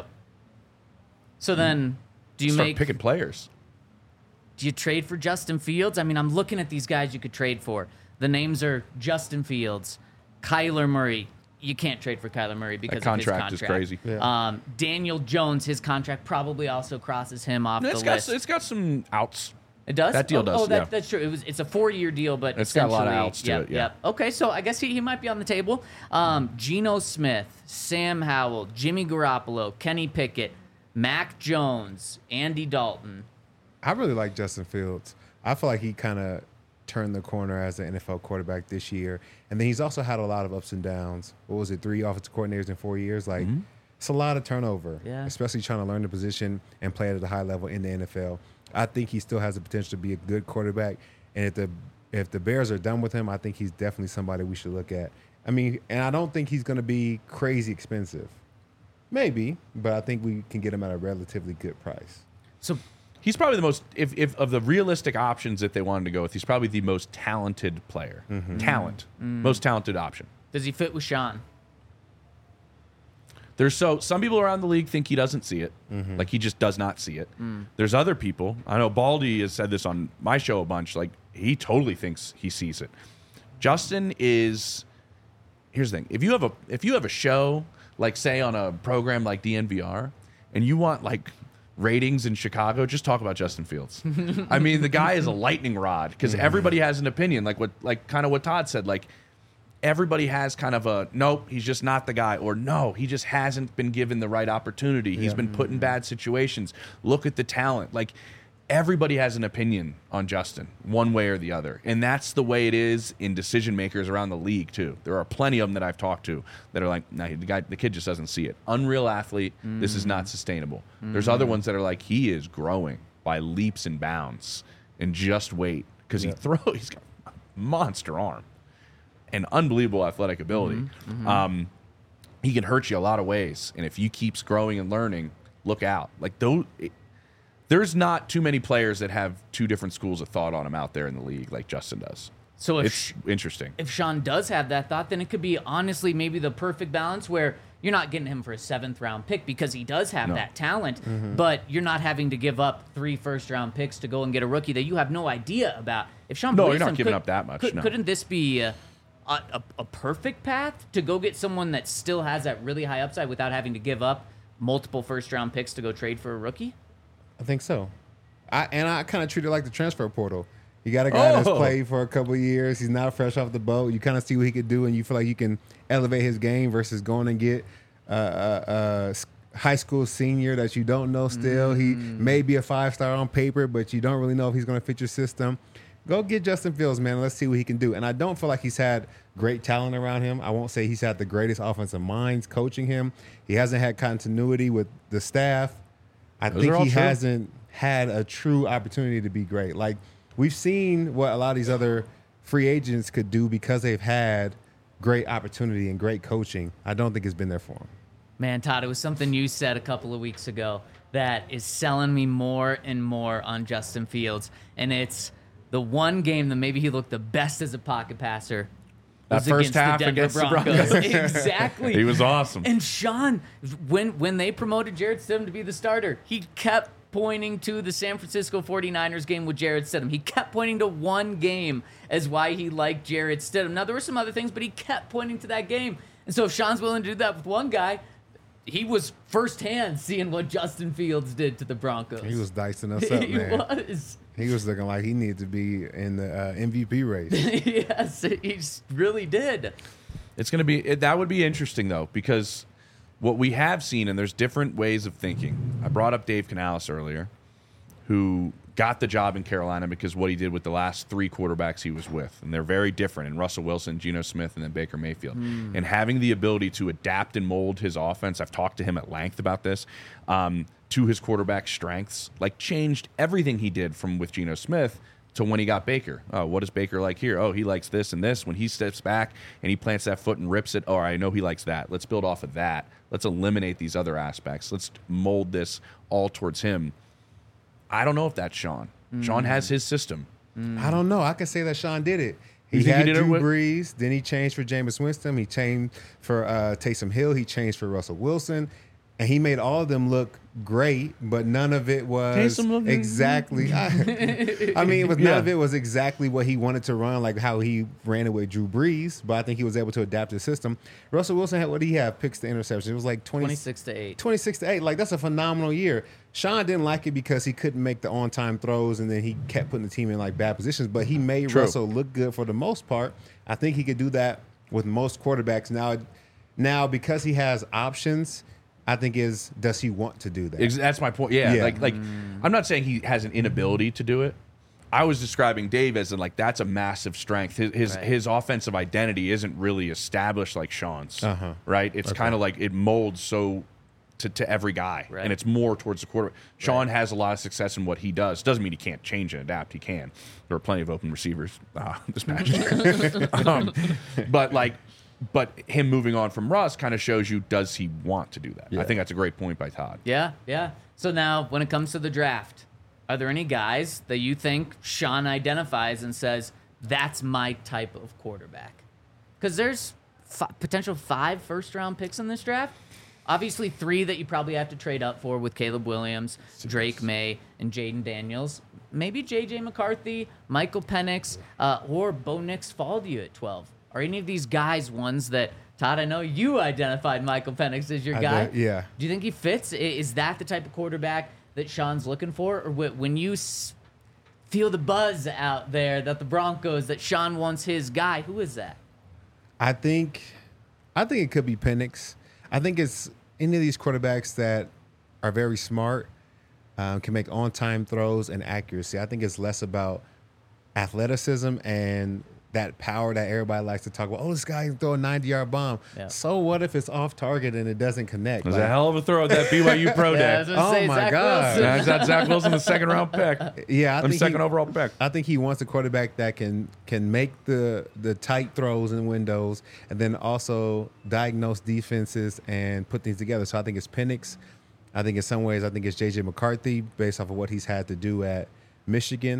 So then, do you Start make picking players. Do you trade for Justin Fields? I mean, I'm looking at these guys you could trade for. The names are Justin Fields, Kyler Murray. You can't trade for Kyler Murray because That of his contract contract. is crazy. Yeah. Daniel Jones, his contract probably also crosses him off the list. It's got some outs. It does. that deal does, yeah. That's true. It's a 4-year deal, but It's got a lot of essentially- outs to yep, it, yeah. Yep. Okay, so I guess he might be on the table. Geno Smith, Sam Howell, Jimmy Garoppolo, Kenny Pickett, Mac Jones, Andy Dalton. I really like Justin Fields. I feel like he kind of turned the corner as an NFL quarterback this year. And then he's also had a lot of ups and downs. What was it, 3 offensive coordinators in 4 years? Like, it's a lot of turnover, Yeah. especially trying to learn the position and play at a high level in the NFL. I think he still has the potential to be a good quarterback. And if the Bears are done with him, I think he's definitely somebody we should look at I mean, and I don't think he's going to be crazy expensive. Maybe, but I think we can get him at a relatively good price. So He's probably the most, if of the realistic options that they wanted to go with, he's probably the most talented player. Most talented option. does he fit with Sean? Some people around the league think he doesn't see it, like he just does not see it. There's other people. I know Baldy has said this on my show a bunch. Like he totally thinks he sees it. Justin is. Here's the thing: if you have a show, like say on a program like DNVR, and you want like ratings in Chicago, just talk about Justin Fields. I mean, the guy is a lightning rod because everybody has an opinion. Like kind of what Todd said. Like everybody has kind of a nope, he's just not the guy, or no, he just hasn't been given the right opportunity. He's been put in bad situations. Look at the talent. Like everybody has an opinion on Justin, one way or the other. And that's the way it is in decision makers around the league too. There are plenty of them that I've talked to that are like, nah, the kid just doesn't see it. Unreal athlete, this is not sustainable. There's other ones that are like, he is growing by leaps and bounds, and just wait, because he's got a monster arm and unbelievable athletic ability. He can hurt you a lot of ways, and if he keeps growing and learning, look out. Like there's not too many players that have two different schools of thought on him out there in the league like Justin does. So It's interesting. If Sean does have that thought, then it could be honestly maybe the perfect balance where you're not getting him for a 7th round pick because he does have that talent, but you're not having to give up 3 first-round picks to go and get a rookie that you have no idea about. If Sean No, believes you're not him, giving up that much, no. Couldn't this be a perfect path to go get someone that still has that really high upside without having to give up multiple first-round picks to go trade for a rookie? I think so. I kind of treat it like the transfer portal. You got a guy that's played for a couple of years. He's not fresh off the boat. You kind of see what he could do, and you feel like you can elevate his game versus going and get a high school senior that you don't know still. He may be a 5-star on paper, but you don't really know if he's going to fit your system. Go get Justin Fields, man. Let's see what he can do. And I don't feel like he's had great talent around him. I won't say he's had the greatest offensive minds coaching him. He hasn't had continuity with the staff. I think he hasn't had a true opportunity to be great. Like, we've seen what a lot of these other free agents could do because they've had great opportunity and great coaching. I don't think it's been there for him. Man, Todd, it was something you said a couple of weeks ago that is selling me more and more on Justin Fields. And it's the one game that maybe he looked the best as a pocket passer. That first half against the Broncos. Exactly. He was awesome. And Sean, when they promoted Jarrett Stidham to be the starter, he kept pointing to the San Francisco 49ers game with Jarrett Stidham. He kept pointing to one game as why he liked Jarrett Stidham. Now, there were some other things, but he kept pointing to that game. And so if Sean's willing to do that with one guy, he was firsthand seeing what Justin Fields did to the Broncos. He was dicing us up, man. He was looking like he needed to be in the MVP race. Yes, he really did. It's going to be that would be interesting though, because what we have seen, and there's different ways of thinking. I brought up Dave Canales earlier, who got the job in Carolina because what he did with the last 3 quarterbacks he was with, and they're very different. And Russell Wilson, Geno Smith, and then Baker Mayfield. And having the ability to adapt and mold his offense, I've talked to him at length about this, to his quarterback strengths, like changed everything he did from with Geno Smith to when he got Baker. Oh, what is Baker like here? Oh, he likes this and this. When he steps back and he plants that foot and rips it, oh, I know he likes that. Let's build off of that. Let's eliminate these other aspects. Let's mold this all towards him. I don't know if that's Sean. Sean has his system. I don't know. I could say that Sean did it. He think he had did it Drew with- Brees, then he changed for Jameis Winston. He changed for Taysom Hill. He changed for Russell Wilson. And he made all of them look great, but none of it was Taysom looked- exactly. I mean, it was none of it was exactly what he wanted to run, like how he ran it with Drew Brees. But I think he was able to adapt his system. Russell Wilson had, what did he have? Picks to interceptions. It was like 26-8. 26-8. Like, that's a phenomenal year. Sean didn't like it because he couldn't make the on-time throws, and then he kept putting the team in like bad positions. But he made Russell look good for the most part. I think he could do that with most quarterbacks now because he has options. I think does he want to do that? That's my point. Yeah. Like I'm not saying he has an inability to do it. I was describing Dave as in like that's a massive strength. His offensive identity isn't really established like Sean's. Right? It's kind of like it molds so to every guy, and it's more towards the quarterback. Sean has a lot of success in what he does. Doesn't mean he can't change and adapt. He can. There are plenty of open receivers this match. But like But him moving on from Russ kind of shows you, does he want to do that? Yeah. I think that's a great point by Todd. Yeah, yeah. So now, when it comes to the draft, are there any guys that you think Sean identifies and says, that's my type of quarterback? Because there's potential 5 first-round picks in this draft. Obviously, 3 that you probably have to trade up for with Caleb Williams, Drake May, and Jaden Daniels. Maybe J.J. McCarthy, Michael Penix, or Bo Nix fall to you at 12. Are any of these guys ones that, Todd, I know you identified Michael Penix as your guy. Yeah. Do you think he fits? Is that the type of quarterback that Sean's looking for? Or when you feel the buzz out there that the Broncos, that Sean wants his guy, who is that? I think it could be Penix. I think it's any of these quarterbacks that are very smart, can make on-time throws and accuracy. I think it's less about athleticism and that power that everybody likes to talk about. Oh, this guy can throw a 90-yard bomb. Yeah. So what if it's off target and it doesn't connect? It was a hell of a throw at that BYU Pro Yeah, I Day. was gonna say, Oh, my Zach God. Wilson. That's that Zach Wilson, the second-round pick. Yeah, I think second overall pick. I think he wants a quarterback that can make the tight throws in windows and then also diagnose defenses and put things together. So I think it's Penix. I think in some ways I think it's J.J. McCarthy based off of what he's had to do at Michigan.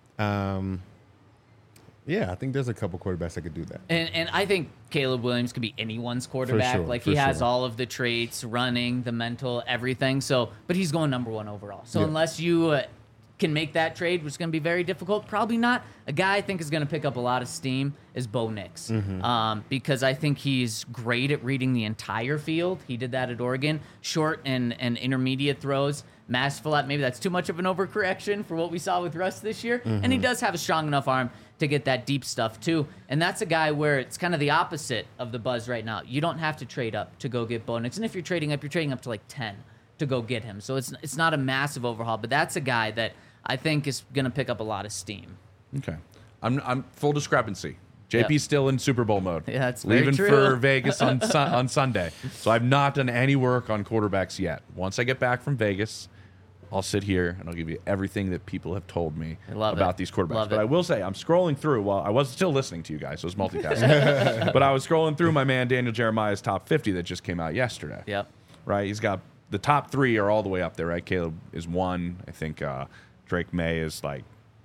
Yeah, I think there's a couple quarterbacks that could do that. And I think Caleb Williams could be anyone's quarterback. sure, Like for he has sure. all of the traits, running, the mental, everything. So, but he's going number 1 overall. So Yeah. unless you can make that trade, which is going to be very difficult, probably not. A guy I think is going to pick up a lot of steam is Bo Nix, because I think he's great at reading the entire field. He did that at Oregon. Short and intermediate throws. Masterful at, maybe that's too much of an overcorrection for what we saw with Russ this year. And he does have a strong enough arm to get that deep stuff too. And that's a guy where it's kind of the opposite of the buzz right now. You don't have to trade up to go get Bo Nix. And if you're trading up to like 10 to go get him. So it's not a massive overhaul, but that's a guy that I think is going to pick up a lot of steam. Okay. I'm full discrepancy. JP's Yep. still in Super Bowl mode. Yeah, that's very Leaving true. for Vegas on on Sunday. So I've not done any work on quarterbacks yet. Once I get back from Vegas, I'll sit here and I'll give you everything that people have told me I love about it. these quarterbacks. Love But it. I will say, I'm scrolling through while I was still listening to you guys, so it was multitasking. But I was scrolling through my man Daniel Jeremiah's top 50 that just came out yesterday. Yep. Right? He's got the top 3 are all the way up there, right? Caleb is 1. I think Drake May is like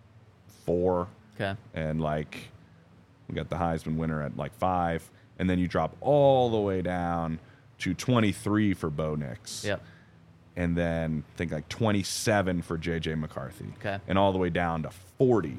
4. Okay. And like we got the Heisman winner at like 5, and then you drop all the way down to 23 for Bo Nix. Yep. And then I think like 27 for J.J. McCarthy. Okay. And all the way down to 40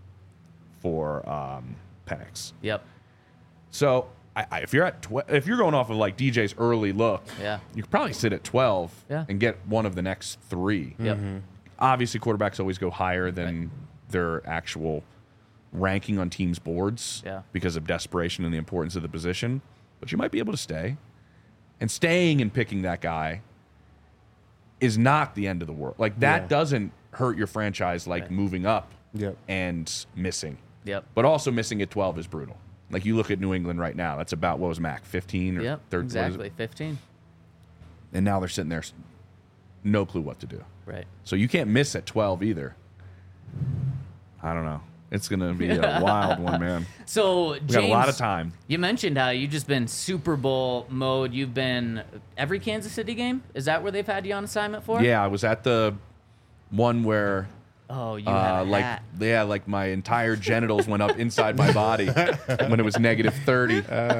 for Penix. Yep. So if you're at if you're going off of like DJ's early look, Yeah. you could probably sit at 12 Yeah. and get one of the next 3. Yep. Obviously, quarterbacks always go higher than their actual ranking on teams' boards Yeah. because of desperation and the importance of the position. But you might be able to stay. And staying and picking that guy is not the end of the world. Like, that Yeah. doesn't hurt your franchise like Right. moving up Yep. and missing. Yep. But also missing at 12 is brutal. Like, you look at New England right now. That's about, what was Mac, 15 or Yep. 13? Exactly. 15. And now they're sitting there, no clue what to do. Right. So you can't miss at 12 either. I don't know. It's going to be a wild one, man. So, We James, got a lot of time. You mentioned how you've just been Super Bowl mode. You've been every Kansas City game. Is that where they've had you on assignment for? Yeah, I was at the one where Oh, you had a like hat. like my entire genitals went up inside my body when it was negative 30.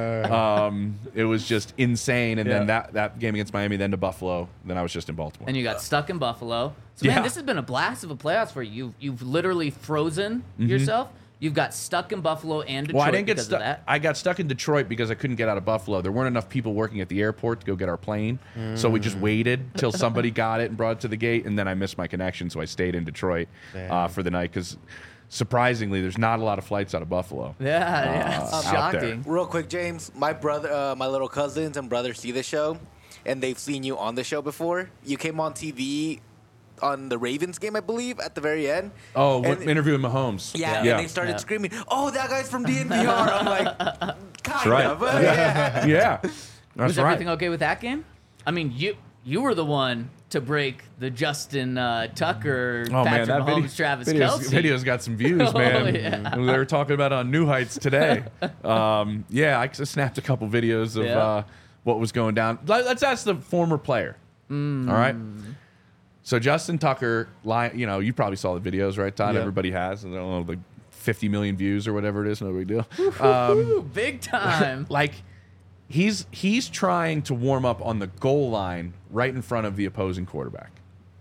It was just insane. And then that game against Miami, then to Buffalo, then I was just in Baltimore. And you got stuck in Buffalo. So, Yeah. man, this has been a blast of a playoffs for you. You've literally frozen yourself. You've got stuck in Buffalo and Detroit Well, I didn't get because stuck. of that. I got stuck in Detroit because I couldn't get out of Buffalo. There weren't enough people working at the airport to go get our plane, so we just waited till somebody got it and brought it to the gate, and then I missed my connection, so I stayed in Detroit for the night because, surprisingly, there's not a lot of flights out of Buffalo. Yeah, it's out there. shocking. Real quick, James, my brother, my little cousins and brother see the show, and they've seen you on the show before. You came on TV on the Ravens game, I believe, at the very end. Oh, And- interviewing Mahomes. Yeah, yeah. and they started Yeah. screaming, "Oh, that guy's from DNVR." I'm like, kind right. of. Yeah. yeah. That's Was right. everything okay with that game? I mean, you were the one to break the Justin Tucker, Oh man, Patrick that Mahomes, Travis video's Kelce. got some views, Oh, man. yeah. They were talking about it on New Heights today. Yeah, I just snapped a couple videos of Yeah. what was going down. Let's ask the former player. All right. So Justin Tucker, you probably saw the videos, right, Todd? Yeah. Everybody has. I don't know, like 50 million views or whatever it is. No big deal. Ooh, big time. Like he's trying to warm up on the goal line right in front of the opposing quarterback.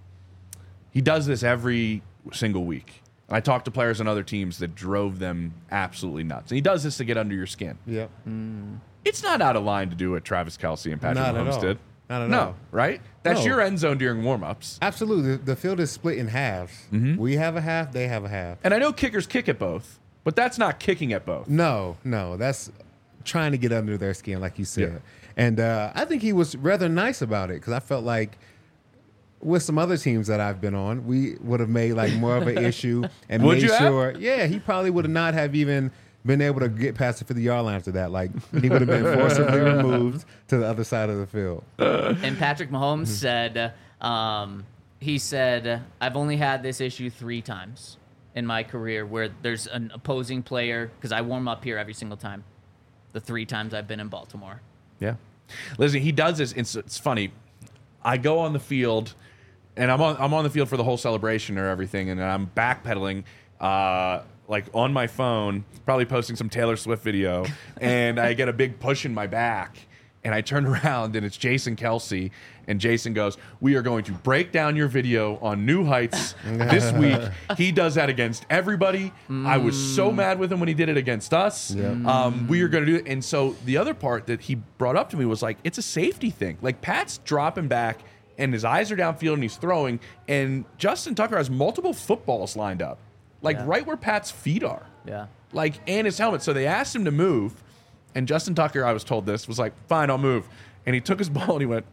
He does this every single week. And I talked to players on other teams that drove them absolutely nuts. And he does this to get under your skin. Yep. It's not out of line to do what Travis Kelce and Patrick Not at Mahomes all. did. Not at no, all. right? That's No. your end zone during warm-ups. Absolutely. The field is split in halves. We have a half, they have a half. And I know kickers kick at both, but that's not kicking at both. No, that's trying to get under their skin, like you said. Yeah. And I think he was rather nice about it because I felt like with some other teams that I've been on, we would have made like more of an issue and Would made you have? sure. Yeah, he probably would have not have even been able to get past the 50-yard line after that. Like he would have been forcibly removed to the other side of the field. And Patrick Mahomes said, he said, I've only had this issue 3 times in my career where there's an opposing player, because I warm up here every single time, the 3 times I've been in Baltimore. Yeah. Listen, he does this. It's funny. I go on the field, and I'm on the field for the whole celebration or everything, and I'm backpedaling, like on my phone, probably posting some Taylor Swift video, and I get a big push in my back, and I turn around, and it's Jason Kelce, and Jason goes, "We are going to break down your video on New Heights this week." He does that against everybody. I was so mad with him when he did it against us. We are going to do it. And so the other part that he brought up to me was like, it's a safety thing. Like Pat's dropping back, and his eyes are downfield, and he's throwing, and Justin Tucker has multiple footballs lined up, like Yeah. right where Pat's feet are. Yeah. Like, and his helmet. So they asked him to move, and Justin Tucker, I was told this, was like, "Fine, I'll move." And he took his ball and he went,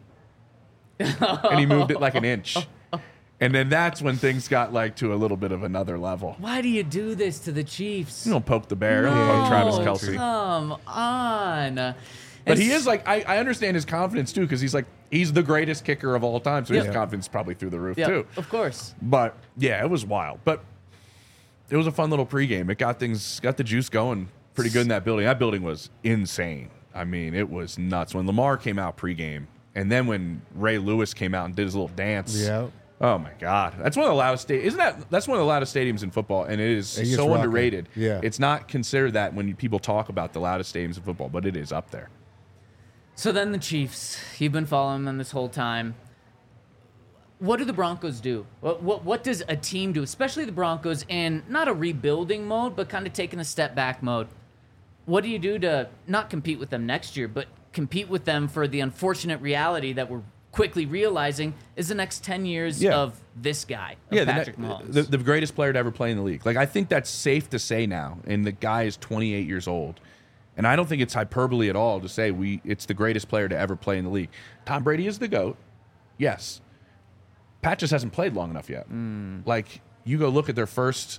and he moved it like an inch. And then that's when things got like to a little bit of another level. Why do you do this to the Chiefs? You don't poke the bear, don't poke Travis No, Kelce. Come on. But he is like, I understand his confidence too, because he's like, he's the greatest kicker of all time. So his Yeah. confidence is probably through the roof Yeah, too. of course. But yeah, it was wild. But it was a fun little pregame. It got the juice going pretty good in that building. That building was insane. I mean, it was nuts. When Lamar came out pregame, and then when Ray Lewis came out and did his little dance. Yeah. Oh my God, that's one of the loudest. That's one of the loudest stadiums in football, and it is It gets so rocking. underrated. Yeah. It's not considered that when people talk about the loudest stadiums in football, but it is up there. So then the Chiefs, you've been following them this whole time. What do the Broncos do? What does a team do, especially the Broncos, in not a rebuilding mode, but kind of taking a step back mode? What do you do to not compete with them next year, but compete with them for the unfortunate reality that we're quickly realizing is the next 10 years Yeah. of this guy, of Patrick Mahomes? the greatest player to ever play in the league. Like, I think that's safe to say now. And the guy is 28 years old. And I don't think it's hyperbole at all to say it's the greatest player to ever play in the league. Tom Brady is the GOAT. Yes. Pat just hasn't played long enough yet. Like, you go look at their first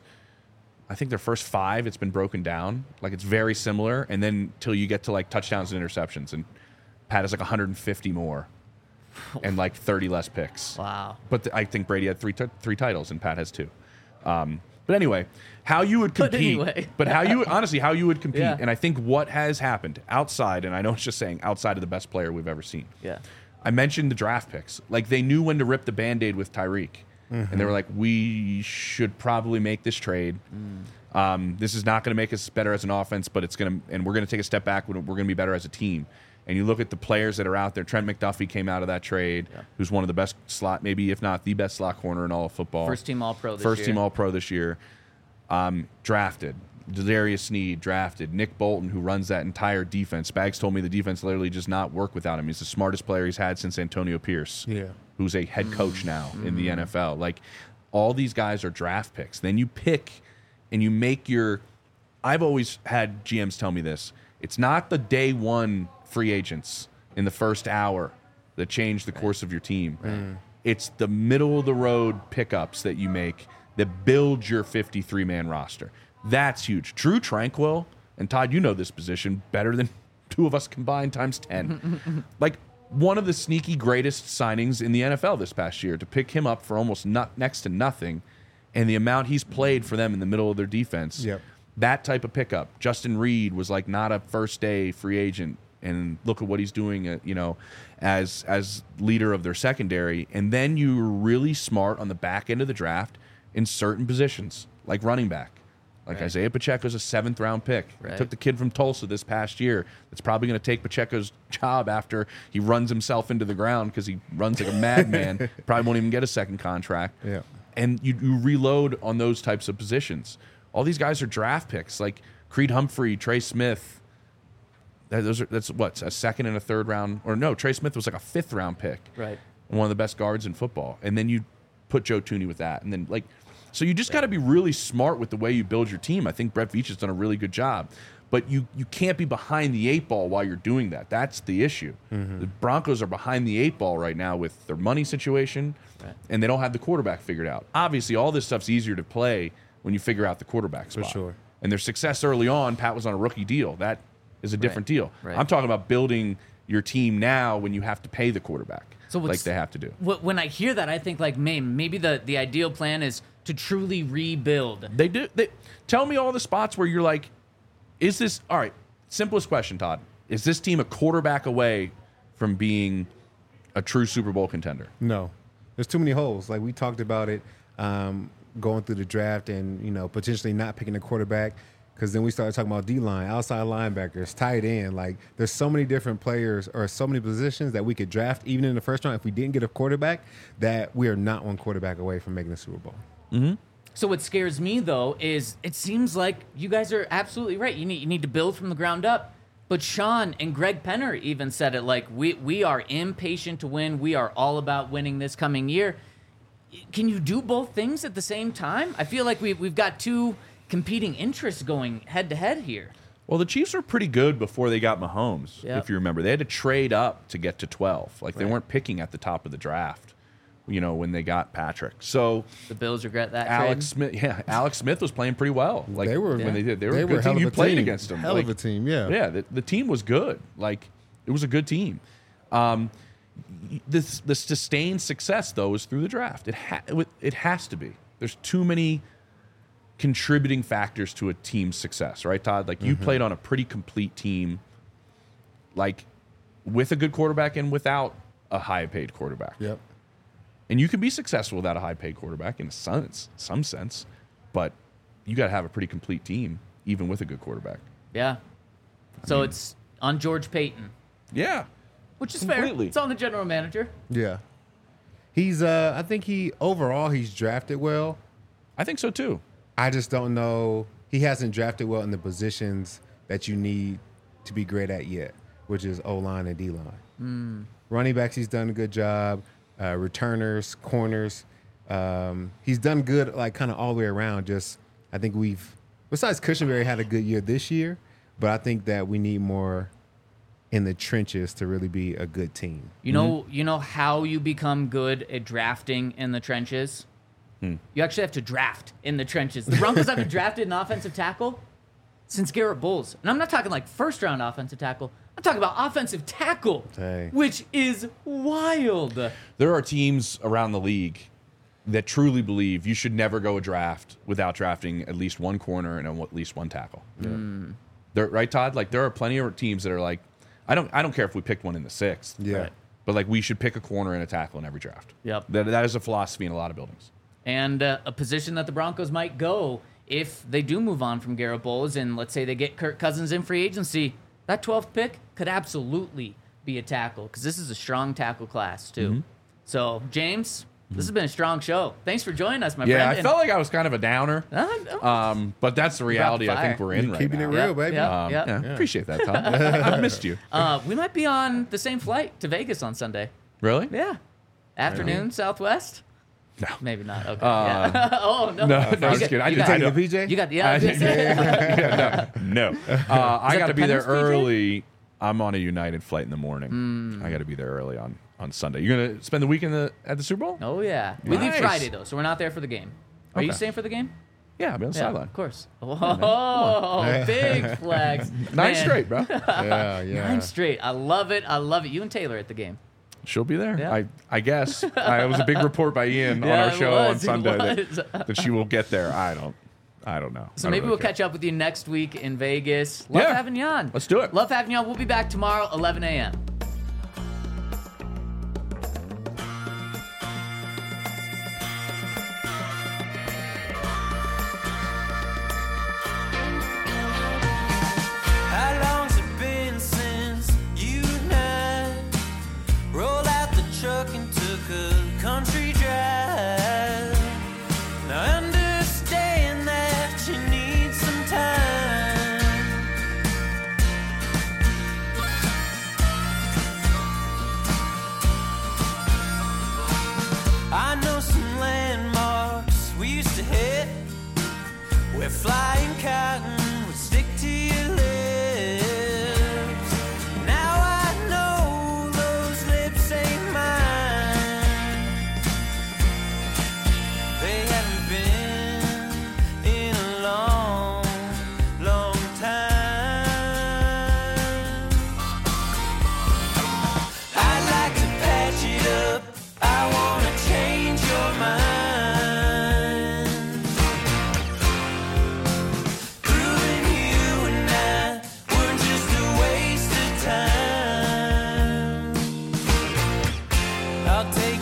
5, it's been broken down. Like, it's very similar. And then till you get to like touchdowns and interceptions. And Pat has like 150 more and like 30 less picks. Wow. But I think Brady had three titles and Pat has 2. But anyway, how you would compete. How you would compete. Yeah. And I think what has happened outside, and I know it's just saying outside of the best player we've ever seen. Yeah. I mentioned the draft picks. Like, they knew when to rip the Band-Aid with Tyreek. And they were like, we should probably make this trade. This is not going to make us better as an offense, but we're going to take a step back. We're going to be better as a team. And you look at the players that are out there. Trent McDuffie came out of that trade, who's one of the best slot, maybe if not the best slot corner in all of football. First team All-Pro this First year. team All-Pro this year. Drafted. Darius Sneed drafted. Nick Bolton, who runs that entire defense. Spags told me the defense literally does not work without him. He's the smartest player he's had since Antonio Pierce, who's a head coach now in the NFL. Like, all these guys are draft picks. Then you pick and you make your – I've always had GMs tell me this. It's not the day one free agents in the first hour that change the course of your team. It's the middle-of-the-road pickups that you make that build your 53-man roster. That's huge. Drew Tranquil, and Todd, you know this position better than 2 of us combined times 10. Like, one of the sneaky greatest signings in the NFL this past year to pick him up for almost next to nothing, and the amount he's played for them in the middle of their defense. Yep. That type of pickup. Justin Reed was like not a first day free agent, and look at what he's doing, as leader of their secondary. And then you were really smart on the back end of the draft in certain positions, like running back. Like Right. Isaiah Pacheco's a 7th round pick. Right. Took the kid from Tulsa this past year. That's probably going to take Pacheco's job after he runs himself into the ground because he runs like a madman. Probably won't even get a second contract. Yeah. And you reload on those types of positions. All these guys are draft picks, like Creed Humphrey, Trey Smith. That's what, a 2nd and a 3rd round, or no, Trey Smith was like a 5th round pick. Right. And one of the best guards in football. And then you put Joe Thuney with that. And then so you just got to be really smart with the way you build your team. I think Brett Veach has done a really good job. But you can't be behind the 8 ball while you're doing that. That's the issue. The Broncos are behind the 8 ball right now with their money situation, and they don't have the quarterback figured out. Obviously, all this stuff's easier to play when you figure out the quarterback spot. sure. And their success early on, Pat was on a rookie deal. That is a different deal. Right. I'm talking about building your team now when you have to pay the quarterback, So like what's- they have to do. When I hear that, I think like, maybe the ideal plan is to truly rebuild. They do. Tell me all the spots where you're like, is this all right? Simplest question, Todd. Is this team a quarterback away from being a true Super Bowl contender? No, there's too many holes. Like we talked about it, going through the draft and potentially not picking a quarterback. Because then we started talking about D-line, outside linebackers, tight end. Like there's so many different players or so many positions that we could draft even in the first round if we didn't get a quarterback, that we are not one quarterback away from making the Super Bowl. So what scares me though is it seems like you guys are absolutely right. You need to build from the ground up. But Sean and Greg Penner even said it, like we are impatient to win. We are all about winning this coming year. Can you do both things at the same time? I feel like we've got two competing interests going head to head here. Well, the Chiefs were pretty good before they got Mahomes, Yep. if you remember. They had to trade up to get to 12. Like they Right. weren't picking at the top of the draft, when they got Patrick. So The Bills regret that Alex trade. Smith, Alex Smith was playing pretty well. Like They were- when they did. They were They a were good hell team. of You a played team. against them. Hell of a team, yeah. Yeah, the team was good. Like it was a good team. The sustained success though is through the draft. It has to be. There's too many contributing factors to a team's success, right, Todd? Like you played on a pretty complete team, like with a good quarterback and without a high-paid quarterback. Yep. And you can be successful without a high-paid quarterback in some sense, but you got to have a pretty complete team, even with a good quarterback. Yeah. So it's on George Payton, Yeah, which is Completely. fair. It's on the general manager. Yeah. He's I think he's drafted well. I think so too. I just don't know. He hasn't drafted well in the positions that you need to be great at yet, which is O-line and D-line. Running backs, he's done a good job. Returners, corners. He's done good, like kind of all the way around. Just I think besides Cushenberry had a good year this year, but I think that we need more in the trenches to really be a good team. You know how you become good at drafting in the trenches? You actually have to draft in the trenches. The Broncos haven't drafted an offensive tackle since Garrett Bowles. And I'm not talking like first round offensive tackle. I'm talking about offensive tackle, Dang. which is wild. There are teams around the league that truly believe you should never go a draft without drafting at least one corner and at least one tackle. Right, Todd? Like there are plenty of teams that are like, I don't care if we picked one in the 6th. Yeah. Right. But like we should pick a corner and a tackle in every draft. Yep. That is a philosophy in a lot of buildings. And a position that the Broncos might go if they do move on from Garrett Bowles and let's say they get Kirk Cousins in free agency, that 12th pick could absolutely be a tackle because this is a strong tackle class too. So, James, this has been a strong show. Thanks for joining us, my Yeah, friend. I felt like I was kind of a downer. But that's the reality I think fire. we're in right Keeping now. it real, baby. Yeah. Appreciate that, Todd. I've missed you. We might be on the same flight to Vegas on Sunday. Really? Yeah. Afternoon, Southwest? No. Maybe not. Okay. Yeah. Oh, no. No, You no, I'm just got- kidding. I you did got- I know. The PJ? You got the yeah. No. I got to be there Dependence, PJ? early. I'm on a United flight in the morning. I got to be there early on Sunday. You're going to spend the weekend at the Super Bowl? Oh yeah. We leave Nice. Friday though, so we're not there for the game. Are you Okay. staying for the game? Yeah, I'll be on the Yeah, sideline. of course. Oh, big flags. 9 Man, straight, bro. Yeah, yeah. 9 straight. I love it. I love it. You and Taylor at the game. She'll be there. Yeah. I guess. It was a big report by Ian on Yeah, our it show on was, it Sunday was. that she will get there. I don't know. So I don't maybe really we'll care. catch up with you next week in Vegas. Love Yeah. having you on. Let's do it. Love having you on. We'll be back tomorrow, 11 a.m. How long's it been since you and I rolled out the truck and took a country drive? Now I understand that you need some time. I know some landmarks we used to hit where flying cotton would stick to your lips. Now I know those lips ain't mine. They haven't been in a long, long time. I'd like to patch it up. I wanna change your mind. Proving you and I were just a waste of time. I'll take